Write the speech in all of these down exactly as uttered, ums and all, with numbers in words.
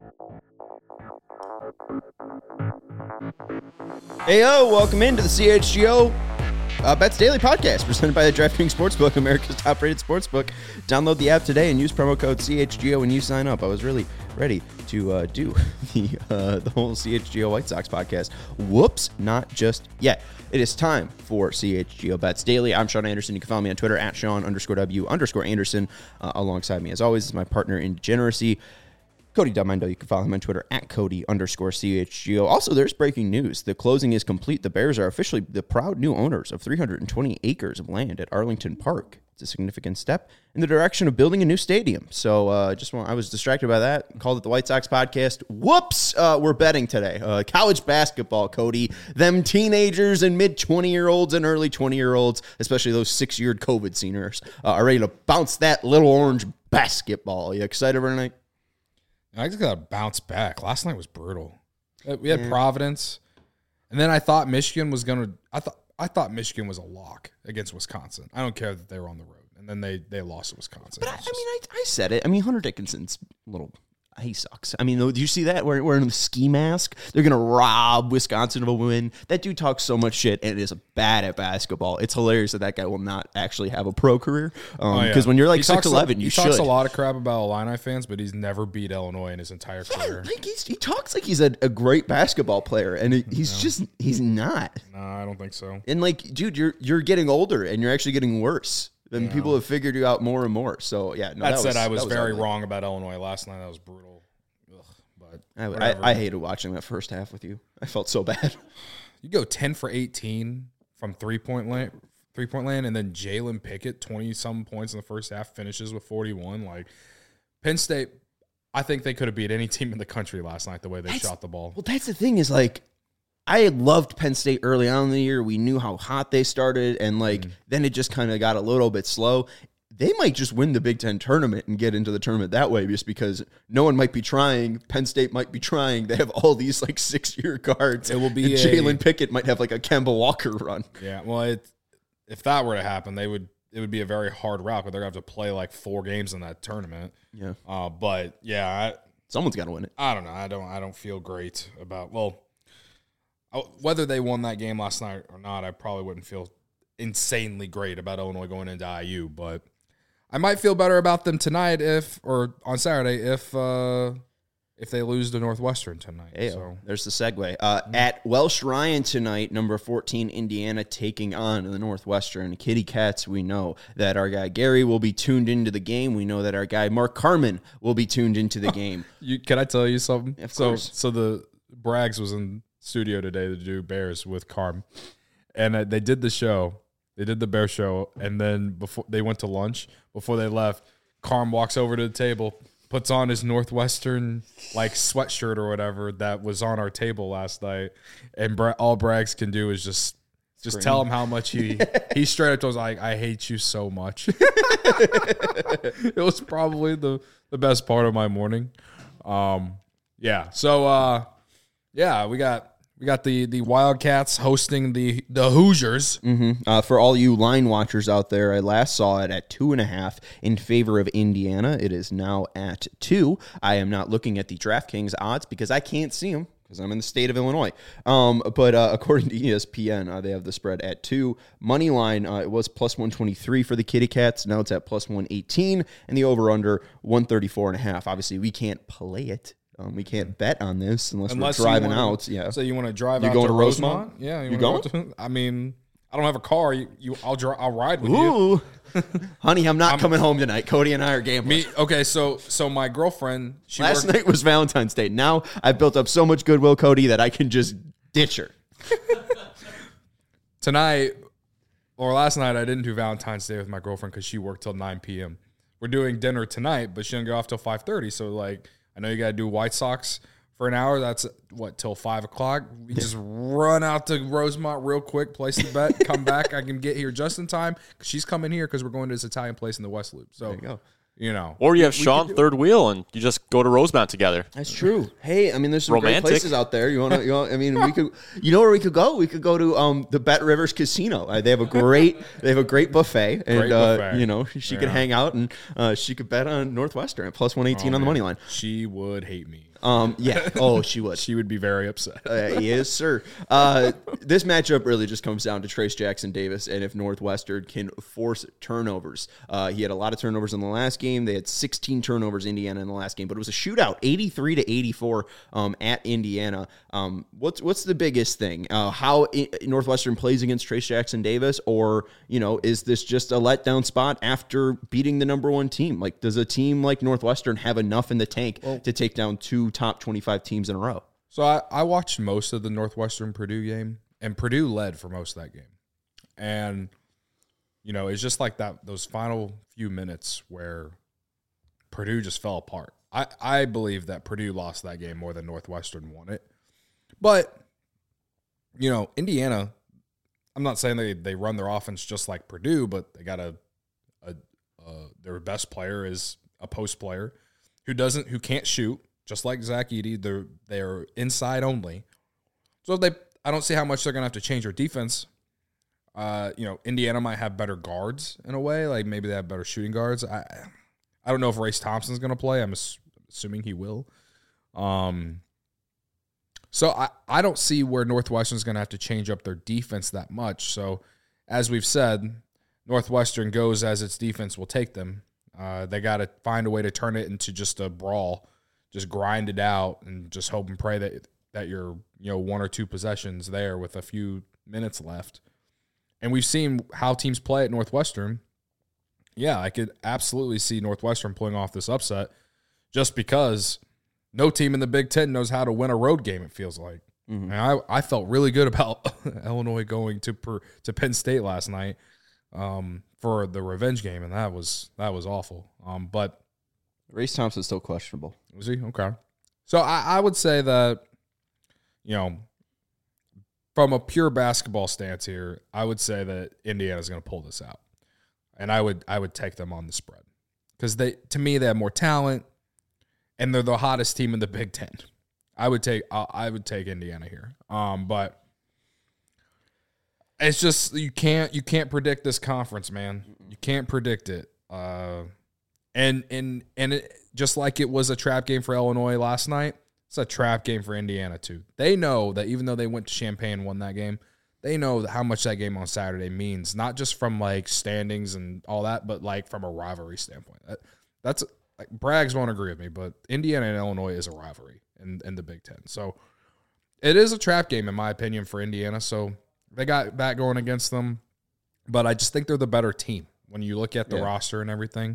Hey, yo, welcome into the C H G O uh, Bets Daily Podcast, presented by the DraftKings Sportsbook, America's top-rated sportsbook. Download the app today and use promo code C H G O when you sign up. I was really ready to uh, do the uh, the whole C H G O White Sox podcast. Whoops, not just yet. It is time for C H G O Bets Daily. I'm Sean Anderson. You can follow me on Twitter at Sean underscore W underscore Anderson. Uh, alongside me, as always, is my partner in degeneracy, Cody Delmendo. You can follow him on Twitter at Cody underscore C H G O. Also, there's breaking news. The closing is complete. The Bears are officially the proud new owners of three hundred twenty acres of land at Arlington Park. It's a significant step in the direction of building a new stadium. So uh, just want, I was distracted by that. Called it the White Sox podcast. Whoops. Uh, we're betting today. Uh, college basketball, Cody. Them teenagers and mid twenty-year-olds and early twenty-year-olds, especially those six-year COVID seniors, uh, are ready to bounce that little orange basketball. You excited for tonight? I just got to bounce back. Last night was brutal. We had yeah. Providence, and then I thought Michigan was going to – I thought I thought Michigan was a lock against Wisconsin. I don't care that they were on the road, and then they, they lost to Wisconsin. But I, just, I mean, I, I said it. I mean, Hunter Dickinson's a little – he sucks. I mean, do you see that? We're wearing the ski mask. They're going to rob Wisconsin of a win. That dude talks so much shit and is bad at basketball. It's hilarious that that guy will not actually have a pro career. Because um, oh, yeah. when you're like six eleven, you should. He talks a lot of crap about Illini fans, but he's never beat Illinois in his entire yeah, career. Like he's, he talks like he's a, a great basketball player, and it, he's no. just, he's not. No, I don't think so. And like, dude, you're you're getting older, and you're actually getting worse. Then yeah. people have figured you out more and more. So, yeah. No, that, that said, was, I was, was very ugly. wrong about Illinois last night. That was brutal. I, I, I hated watching that first half with you. I felt so bad. You go ten for eighteen from three-point land, three-point land, and then Jalen Pickett, twenty-some points in the first half, finishes with forty-one. Like, Penn State, I think they could have beat any team in the country last night the way they that's, shot the ball. Well, that's the thing is, like, I loved Penn State early on in the year. We knew how hot they started, and, like, mm. then it just kind of got a little bit slow. They might just win the Big Ten tournament and get into the tournament that way just because no one might be trying. Penn State might be trying. They have all these, like, six-year guards. It will be Jalen Pickett might have, like, a Kemba Walker run. Yeah, well, it, if that were to happen, they would it would be a very hard route, but they're going to have to play, like, four games in that tournament. Yeah. Uh, but, yeah. I, Someone's got to win it. I don't know. I don't I don't feel great about, well, whether they won that game last night or not, I probably wouldn't feel insanely great about Illinois going into I U, but I might feel better about them tonight if, or on Saturday, if uh, if they lose to Northwestern tonight. Hey, so there's the segue. Uh, mm-hmm. At Welsh Ryan tonight, number fourteen, Indiana taking on the Northwestern Kitty Cats. We know that our guy Gary will be tuned into the game. We know that our guy Mark Carman will be tuned into the game. you, can I tell you something? Of so, course. So the Braggs was in studio today to do Bears with Carm, and uh, they did the show. They did the Bear show, and then before they went to lunch, before they left, Carm walks over to the table, puts on his Northwestern like sweatshirt or whatever that was on our table last night, and Bra- all Braggs can do is just just Scream. tell him how much he he straight up told us like, I hate you so much. It was probably the the best part of my morning. Um, yeah. So uh, yeah, we got. We got the, the Wildcats hosting the, the Hoosiers. Mm-hmm. Uh, for all you line watchers out there, I last saw it at two and a half in favor of Indiana. It is now at two. I am not looking at the DraftKings odds because I can't see them because I'm in the state of Illinois. Um, but uh, according to E S P N, uh, they have the spread at two. Money line, uh, it was plus one twenty-three for the Kitty Cats. Now it's at plus one eighteen, and the over-under one thirty-four and a half. Obviously, we can't play it. Um, we can't bet on this unless, unless we're driving wanna, out. Yeah. So you want to drive You're out going to to Rosemont? Rosemont? Yeah. You, you going? To, I mean, I don't have a car. You, you I'll dri- I'll ride with Ooh. you. Honey, I'm not I'm, coming home tonight. Cody and I are gambling. Me, okay, so so my girlfriend. She Last worked, night was Valentine's Day. Now I've built up so much goodwill, Cody, that I can just ditch her. Tonight, or last night, I didn't do Valentine's Day with my girlfriend because she worked till nine p.m. We're doing dinner tonight, but she didn't go off till five thirty. So, like, I know you got to do White Sox for an hour. That's, what, till five o'clock? We just run out to Rosemont real quick, place the bet, come back. I can get here just in time because she's coming here because we're going to this Italian place in the West Loop. So, there you go. You know, or you have Sean third wheel, and you just go to Rosemont together. That's true. Hey, I mean, there's some Romantic. great places out there. You want to? You know, I mean, we could. You know where we could go? We could go to um the Bet Rivers Casino. Uh, they have a great. They have a great buffet, and Great uh, buffet. you know she Yeah. could hang out and uh, she could bet on Northwestern at plus one eighteen Oh, on the man. money line. She would hate me. Um, yeah. Oh, she would. She would be very upset. Uh, yes, sir. Uh, this matchup really just comes down to Trace Jackson Davis and if Northwestern can force turnovers. Uh, he had a lot of turnovers in the last game. They had sixteen turnovers, Indiana, in the last game, but it was a shootout, eighty-three to eighty-four um, at Indiana. Um, what's what's the biggest thing? Uh, how I- Northwestern plays against Trace Jackson Davis, or you know, is this just a letdown spot after beating the number one team? Like, does a team like Northwestern have enough in the tank well, to take down two top twenty-five teams in a row? So I, I watched most of the Northwestern Purdue game, and Purdue led for most of that game. And, you know, it's just like that, those final few minutes where Purdue just fell apart. I, I believe that Purdue lost that game more than Northwestern won it. But, you know, Indiana, I'm not saying they, they run their offense just like Purdue, but they got a, a uh, their best player is a post player who doesn't, who can't shoot, just like Zach Edey. They're they're inside only, so they I don't see how much they're gonna have to change their defense. Uh, you know, Indiana might have better guards in a way, like maybe they have better shooting guards. I I don't know if Race Thompson's gonna play. I'm ass- assuming he will. Um. So I, I don't see where Northwestern's gonna have to change up their defense that much. So as we've said, Northwestern goes as its defense will take them. Uh, they got to find a way to turn it into just a brawl, just grind it out, and just hope and pray that that you're you know one or two possessions there with a few minutes left. And we've seen how teams play at Northwestern. Yeah, I could absolutely see Northwestern pulling off this upset, just because no team in the Big Ten knows how to win a road game. It feels like. Mm-hmm. And I I felt really good about Illinois going to per, to Penn State last night. Um, for the revenge game, and that was that was awful. Um, but Race Thompson's still questionable. Was he? Okay. So I, I would say that, you know, from a pure basketball stance here, I would say that Indiana's going to pull this out, and I would I would take them on the spread because they to me they have more talent, and they're the hottest team in the Big Ten. I would take I, I would take Indiana here. Um, but. It's just you can't you can't predict this conference, man. You can't predict it. Uh, and and and it, just like it was a trap game for Illinois last night, it's a trap game for Indiana too. They know that even though they went to Champaign and won that game, they know how much that game on Saturday means, not just from like standings and all that, but like from a rivalry standpoint. That, that's like, Braggs won't agree with me, but Indiana and Illinois is a rivalry in, in the Big Ten. So it is a trap game in my opinion for Indiana. So they got that going against them, but I just think they're the better team when you look at the yeah. roster and everything.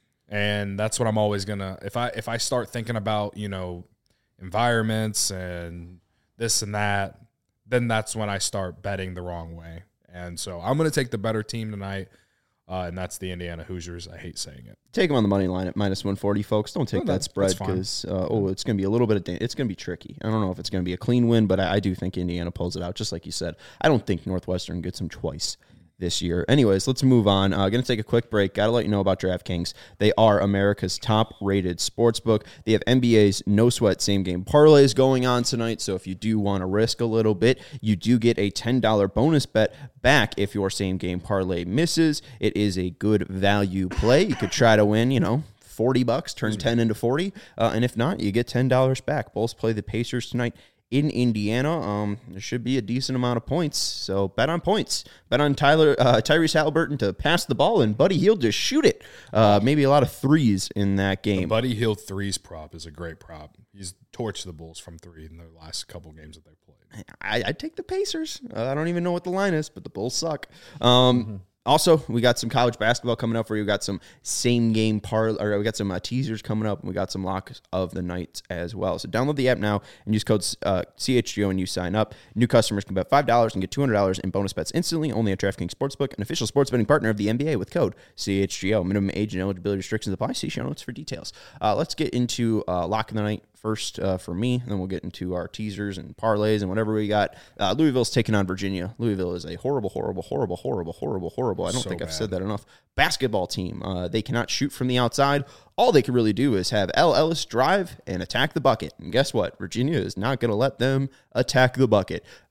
And that's what I'm always gonna if I if I start thinking about, you know, environments and this and that, then that's when I start betting the wrong way. And so I'm gonna take the better team tonight, uh, and that's the Indiana Hoosiers. I hate saying it. Take them on the money line at minus one forty, folks. Don't take oh, that spread because uh, oh, it's going to be a little bit of da- it's going to be tricky. I don't know if it's going to be a clean win, but I, I do think Indiana pulls it out. Just like you said, I don't think Northwestern gets them twice this year. Anyways, let's move on. Uh, going to take a quick break. Got to let you know about DraftKings. They are America's top-rated sportsbook. They have N B A's no-sweat same-game parlays going on tonight, so if you do want to risk a little bit, you do get a ten dollars bonus bet back if your same-game parlay misses. It is a good value play. You could try to win, you know, forty bucks, turn ten into forty, uh, and if not, you get ten dollars back. Bulls play the Pacers tonight in Indiana. Um, there should be a decent amount of points, so bet on points. Bet on Tyler uh, Tyrese Halliburton to pass the ball and Buddy Hield to shoot it. Uh, maybe a lot of threes in that game. The Buddy Hield threes prop is a great prop. He's torched the Bulls from three in the last couple games that they played. I, I'd take the Pacers. Uh, I don't even know what the line is, but the Bulls suck. Um, mm-hmm. Also, we got some college basketball coming up for you. We got some same game par, or we got some uh, teasers coming up, and we got some locks of the night as well. So download the app now and use code uh, C H G O when you sign up. New customers can bet five dollars and get two hundred dollars in bonus bets instantly. Only at DraftKings Sportsbook, an official sports betting partner of the N B A with code C H G O. Minimum age and eligibility restrictions apply. See show notes for details. Uh, let's get into uh, lock of the night first uh, for me, and then we'll get into our teasers and parlays and whatever we got. Uh, Louisville's taking on Virginia. Louisville is a horrible, horrible, horrible, horrible, horrible, horrible. I don't so think bad. I've said that enough. Basketball team. Uh, they cannot shoot from the outside. All they can really do is have L. Ellis drive and attack the bucket. And guess what? Virginia is not going to let them attack the bucket.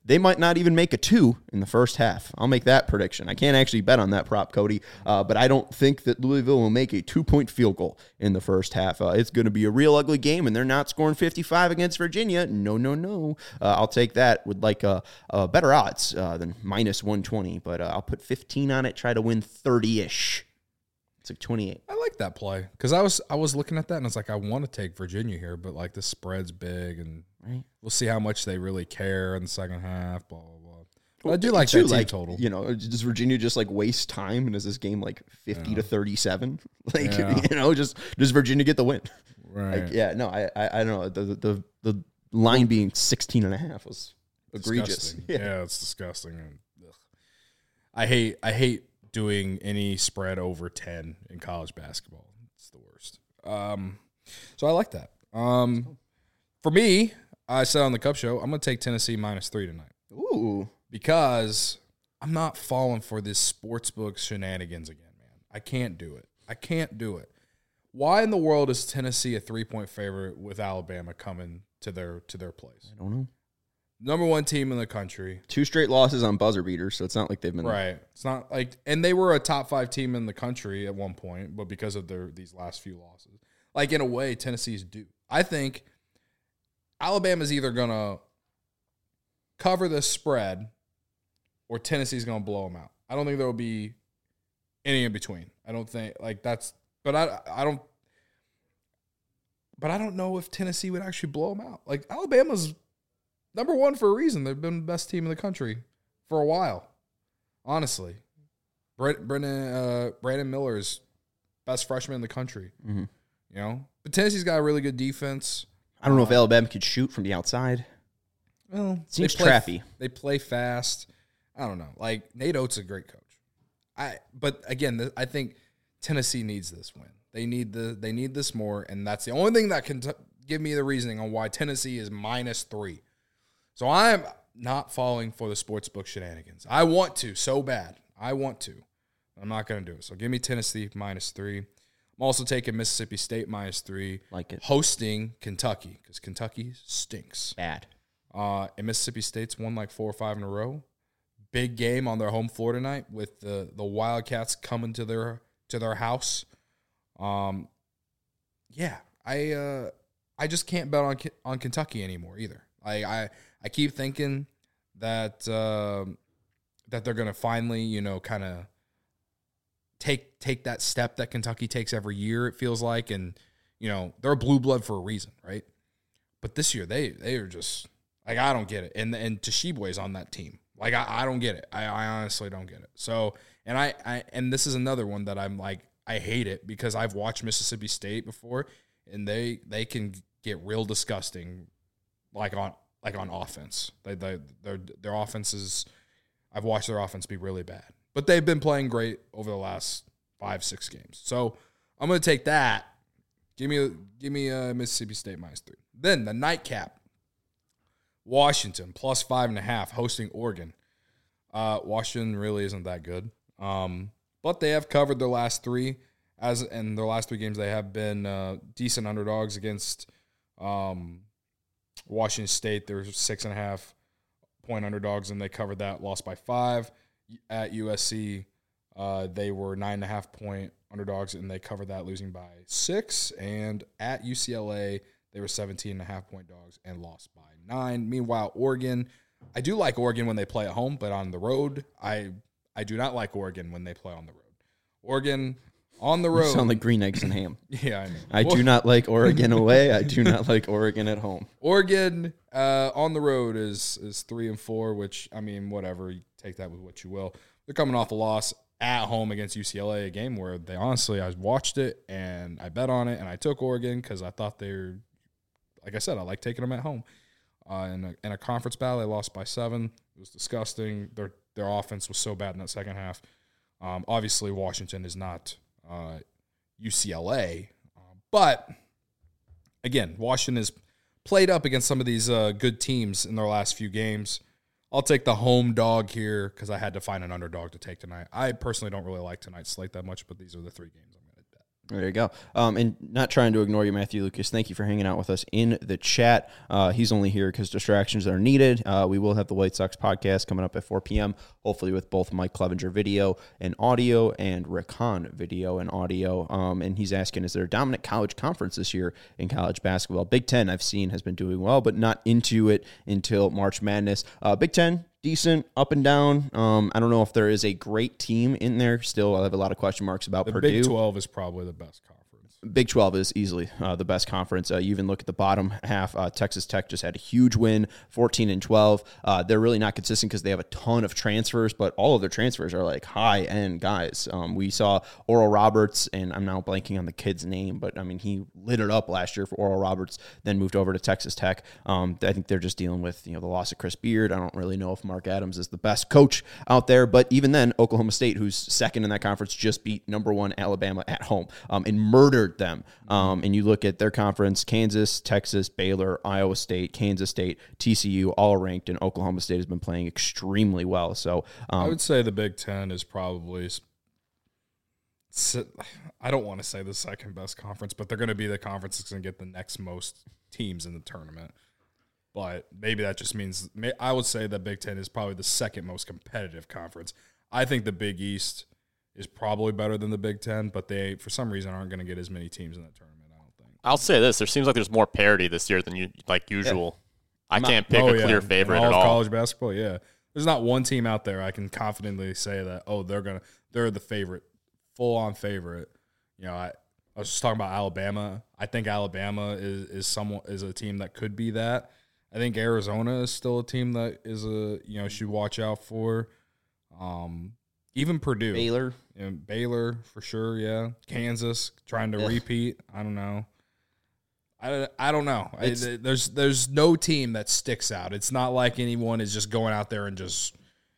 they might not even make a two in the first half. I'll make that prediction. I can't actually bet on that prop, Cody, uh, but I don't think that Louisville will make a two-point field goal in the first half. Uh, it's going to be a real ugly game, and they're not scoring fifty-five against Virginia. No, no, no. Uh, I'll take that with like a, a better odds uh, than minus one twenty, but uh, I'll put fifteen on it, try to win thirty-ish. It's like twenty-eight. I like that play because I was I was looking at that and I was like, I want to take Virginia here, but like the spread's big and Right. we'll see how much they really care in the second half. Blah blah blah. But I do like Too, that team like, total. You know, does Virginia just like waste time, and is this game like fifty Yeah. to thirty-seven? Like, Yeah. you know, just does Virginia get the win? Right. Like, yeah, no, I, I, I don't know. The, the the line being sixteen and a half was egregious. Disgusting. Yeah. Yeah. It's disgusting. And, ugh. I hate I hate doing any spread over ten in college basketball. It's the worst. Um, so I like that. Um, for me, I said on the Cup Show, I'm going to take Tennessee minus three tonight Ooh, because I'm not falling for this sportsbook shenanigans again, man. I can't do it. I can't do it. Why in the world is Tennessee a three-point favorite with Alabama coming to their to their place? I don't know. Number one team in the country. Two straight losses on buzzer beaters, so it's not like they've been Right. It's not like, and they were a top five team in the country at one point, but because of their these last few losses, like in a way, Tennessee's due. I think Alabama's either gonna cover the spread or Tennessee's gonna blow them out. I don't think there will be any in between. I don't think like that's, but I I don't, but I don't know if Tennessee would actually blow them out. Like Alabama's number one for a reason. They've been the best team in the country for a while. Honestly, Brandon uh, Brandon Miller is best freshman in the country. Mm-hmm. You know, but Tennessee's got a really good defense. I don't know Uh, if Alabama could shoot from the outside. Well, Seems they play, trappy. They play fast. I don't know. Like Nate Oates is a great coach. I but again, th- I think Tennessee needs this win. They need the they need this more, and that's the only thing that can t- give me the reasoning on why Tennessee is minus three. So I'm not falling for the sportsbook shenanigans. I want to so bad. I want to. I'm not going to do it. So give me Tennessee minus three. I'm also taking Mississippi State minus three. Like it. Hosting Kentucky because Kentucky stinks. Bad. Uh, and Mississippi State's won like four or five in a row. Big game on their home floor tonight with the, the Wildcats coming to their to their house. Um, yeah, I uh, I just can't bet on on Kentucky anymore either. I I, I keep thinking that uh, that they're gonna finally, you know, kind of take take that step that Kentucky takes every year. It feels like, and you know, they're a blue blood for a reason, right? But this year they they are just like, I don't get it. And and Tshiebwe's on that team. Like I, I don't get it. I, I honestly don't get it. So and I, I and this is another one that I'm like, I hate it because I've watched Mississippi State before and they they can get real disgusting like on like on offense. They they their their offense is, I've watched their offense be really bad. But they've been playing great over the last five, six games. So I'm gonna take that. Give me give me uh, Mississippi State minus three. Then the nightcap. Washington plus five and a half hosting Oregon. Uh, Washington really isn't that good, um, but they have covered their last three. As in their last three games, they have been uh, decent underdogs against um, Washington State. They're six and a half point underdogs, and they covered that. Lost by five. At U S C, uh, they were nine and a half point underdogs, and they covered that, losing by six. And at U C L A, they were seventeen and a half point dogs and lost by nine. Meanwhile, Oregon, I do like Oregon when they play at home, but on the road, I I do not like Oregon when they play on the road. Oregon on the road. You sound like green eggs and ham. Yeah, I know. I do not like Oregon away. I do not like Oregon at home. Oregon uh, on the road is is three and four, which, I mean, whatever. You take that with what you will. They're coming off a loss at home against U C L A, a game where they honestly, I watched it and I bet on it and I took Oregon because I thought they were, like I said, I like taking them at home. Uh, in, a, in a conference battle, they lost by seven. It was disgusting. Their their offense was so bad in that second half. Um, obviously, Washington is not uh, U C L A, uh, but again, Washington has played up against some of these uh, good teams in their last few games. I'll take the home dog here because I had to find an underdog to take tonight. I personally don't really like tonight's slate that much, but these are the three games I'm going to bet. There you go. Um, and not trying to ignore you, Matthew Lucas. Thank you for hanging out with us in the chat. Uh, he's only here because distractions are needed. Uh, we will have the White Sox podcast coming up at four p.m., hopefully with both Mike Clevenger video and audio and Rick Hahn video and audio. Um, and he's asking, is there a dominant college conference this year in college basketball? Big Ten, I've seen, has been doing well, but not into it until March Madness. Uh, Big Ten, decent, up and down. Um, I don't know if there is a great team in there. Still, I have a lot of question marks about The Purdue. Big twelve is probably the best conference. Big twelve is easily uh, the best conference. Uh, you even look at the bottom half. Uh, Texas Tech just had a huge win, fourteen and twelve. Uh, they're really not consistent because they have a ton of transfers, but all of their transfers are like high-end guys. Um, we saw Oral Roberts, and I'm now blanking on the kid's name, but I mean, he lit it up last year for Oral Roberts, then moved over to Texas Tech. Um, I think they're just dealing with, you know, the loss of Chris Beard. I don't really know if Mark Adams is the best coach out there, but even then, Oklahoma State, who's second in that conference, just beat number one Alabama at home um, and murdered them. Um, and you look at their conference, Kansas, Texas, Baylor, Iowa State, Kansas State, T C U, all ranked, and Oklahoma State has been playing extremely well. So um, I would say the Big Ten is probably, I don't want to say the second best conference, but they're going to be the conference that's going to get the next most teams in the tournament. But maybe that just means, I would say the Big Ten is probably the second most competitive conference. I think the Big East is probably better than the Big Ten, but they, for some reason, aren't going to get as many teams in that tournament, I don't think. I'll say this. There seems like there's more parity this year than you like usual. Yeah. I can't pick oh, a yeah. clear favorite in all at of all. college basketball, yeah. There's not one team out there I can confidently say that, oh, they're going to, they're the favorite, full-on favorite. You know, I, I was just talking about Alabama. I think Alabama is is someone is a team that could be that. I think Arizona is still a team that is a, you know, should watch out for. Um, even Purdue. Baylor. You know, Baylor, for sure, yeah. Kansas, trying to Yeah. repeat. I don't know. I, I don't know. I, there's there's no team that sticks out. It's not like anyone is just going out there and just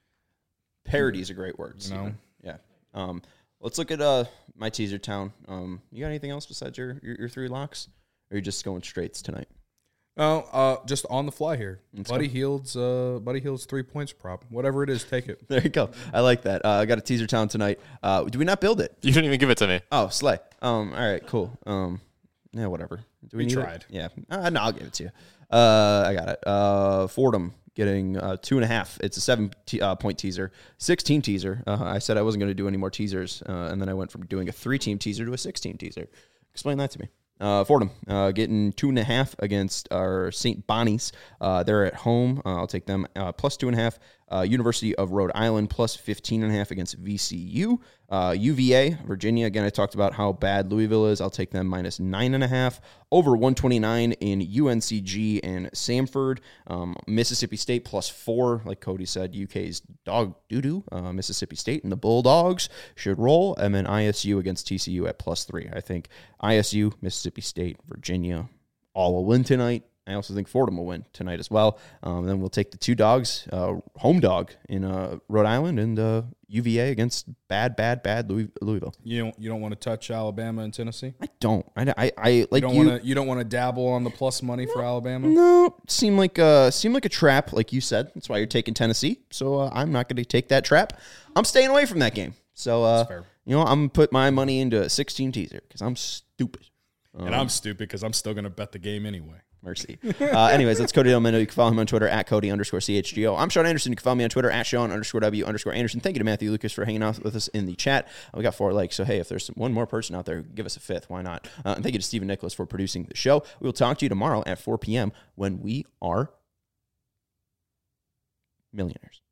Parity is a great word. You know? Steven. Yeah. Um, let's look at uh, my teaser town. Um, you got anything else besides your, your, your three locks? Or are you just going straights tonight? Oh, uh, just on the fly here. Let's Buddy go. Hield's, uh, Buddy Hield's three points prop. Whatever it is, take it. There you go. I like that. Uh, I got a teaser town tonight. Uh, do we not build it? You didn't even give it to me. Oh, slay. Um, all right, cool. Um, yeah, whatever. Do we, We need tried. It? Yeah. Uh, no, I'll give it to you. Uh, I got it. Uh, Fordham getting uh, two and a half. It's a seven te- uh, point teaser, six team teaser. Uh, I said I wasn't going to do any more teasers, uh, and then I went from doing a three team teaser to a six team teaser. Explain that to me. Uh, Fordham uh, getting two and a half against our Saint Bonnies. Uh, they're at home. Uh, I'll take them uh, plus two and a half. Uh, University of Rhode Island plus fifteen and a half against V C U. Uh, U V A, Virginia. Again, I talked about how bad Louisville is. I'll take them minus nine and a half. Over one twenty-nine in U N C G and Samford. Um, Mississippi State plus four. Like Cody said, U K's dog doo-doo. Uh, Mississippi State and the Bulldogs should roll. And then I S U against T C U at plus three. I think I S U, Mississippi State, Virginia all will win tonight. I also think Fordham will win tonight as well. Um, then we'll take the two dogs, uh, home dog in uh, Rhode Island and uh, U V A against bad, bad, bad Louis- Louisville. You don't you don't want to touch Alabama and Tennessee? I don't. I, I, I like You don't you. want to you don't want to dabble on the plus money for Alabama? No, seem like a seem like a trap, like you said. That's why you're taking Tennessee. So uh, I'm not going to take that trap. I'm staying away from that game. So uh, fair. you know, I'm gonna put my money into a sixteen teaser because I'm stupid. And I'm stupid because I'm still going to bet the game anyway. Mercy. Uh, anyways, that's Cody Delmendo. You can follow him on Twitter at Cody underscore C H G O. I'm Sean Anderson. You can follow me on Twitter at Sean underscore W underscore Anderson. Thank you to Matthew Lucas for hanging out with us in the chat. Uh, we got four likes. So, hey, if there's one more person out there, give us a fifth. Why not? Uh, and thank you to Stephen Nicholas for producing the show. We will talk to you tomorrow at four p.m. when we are millionaires.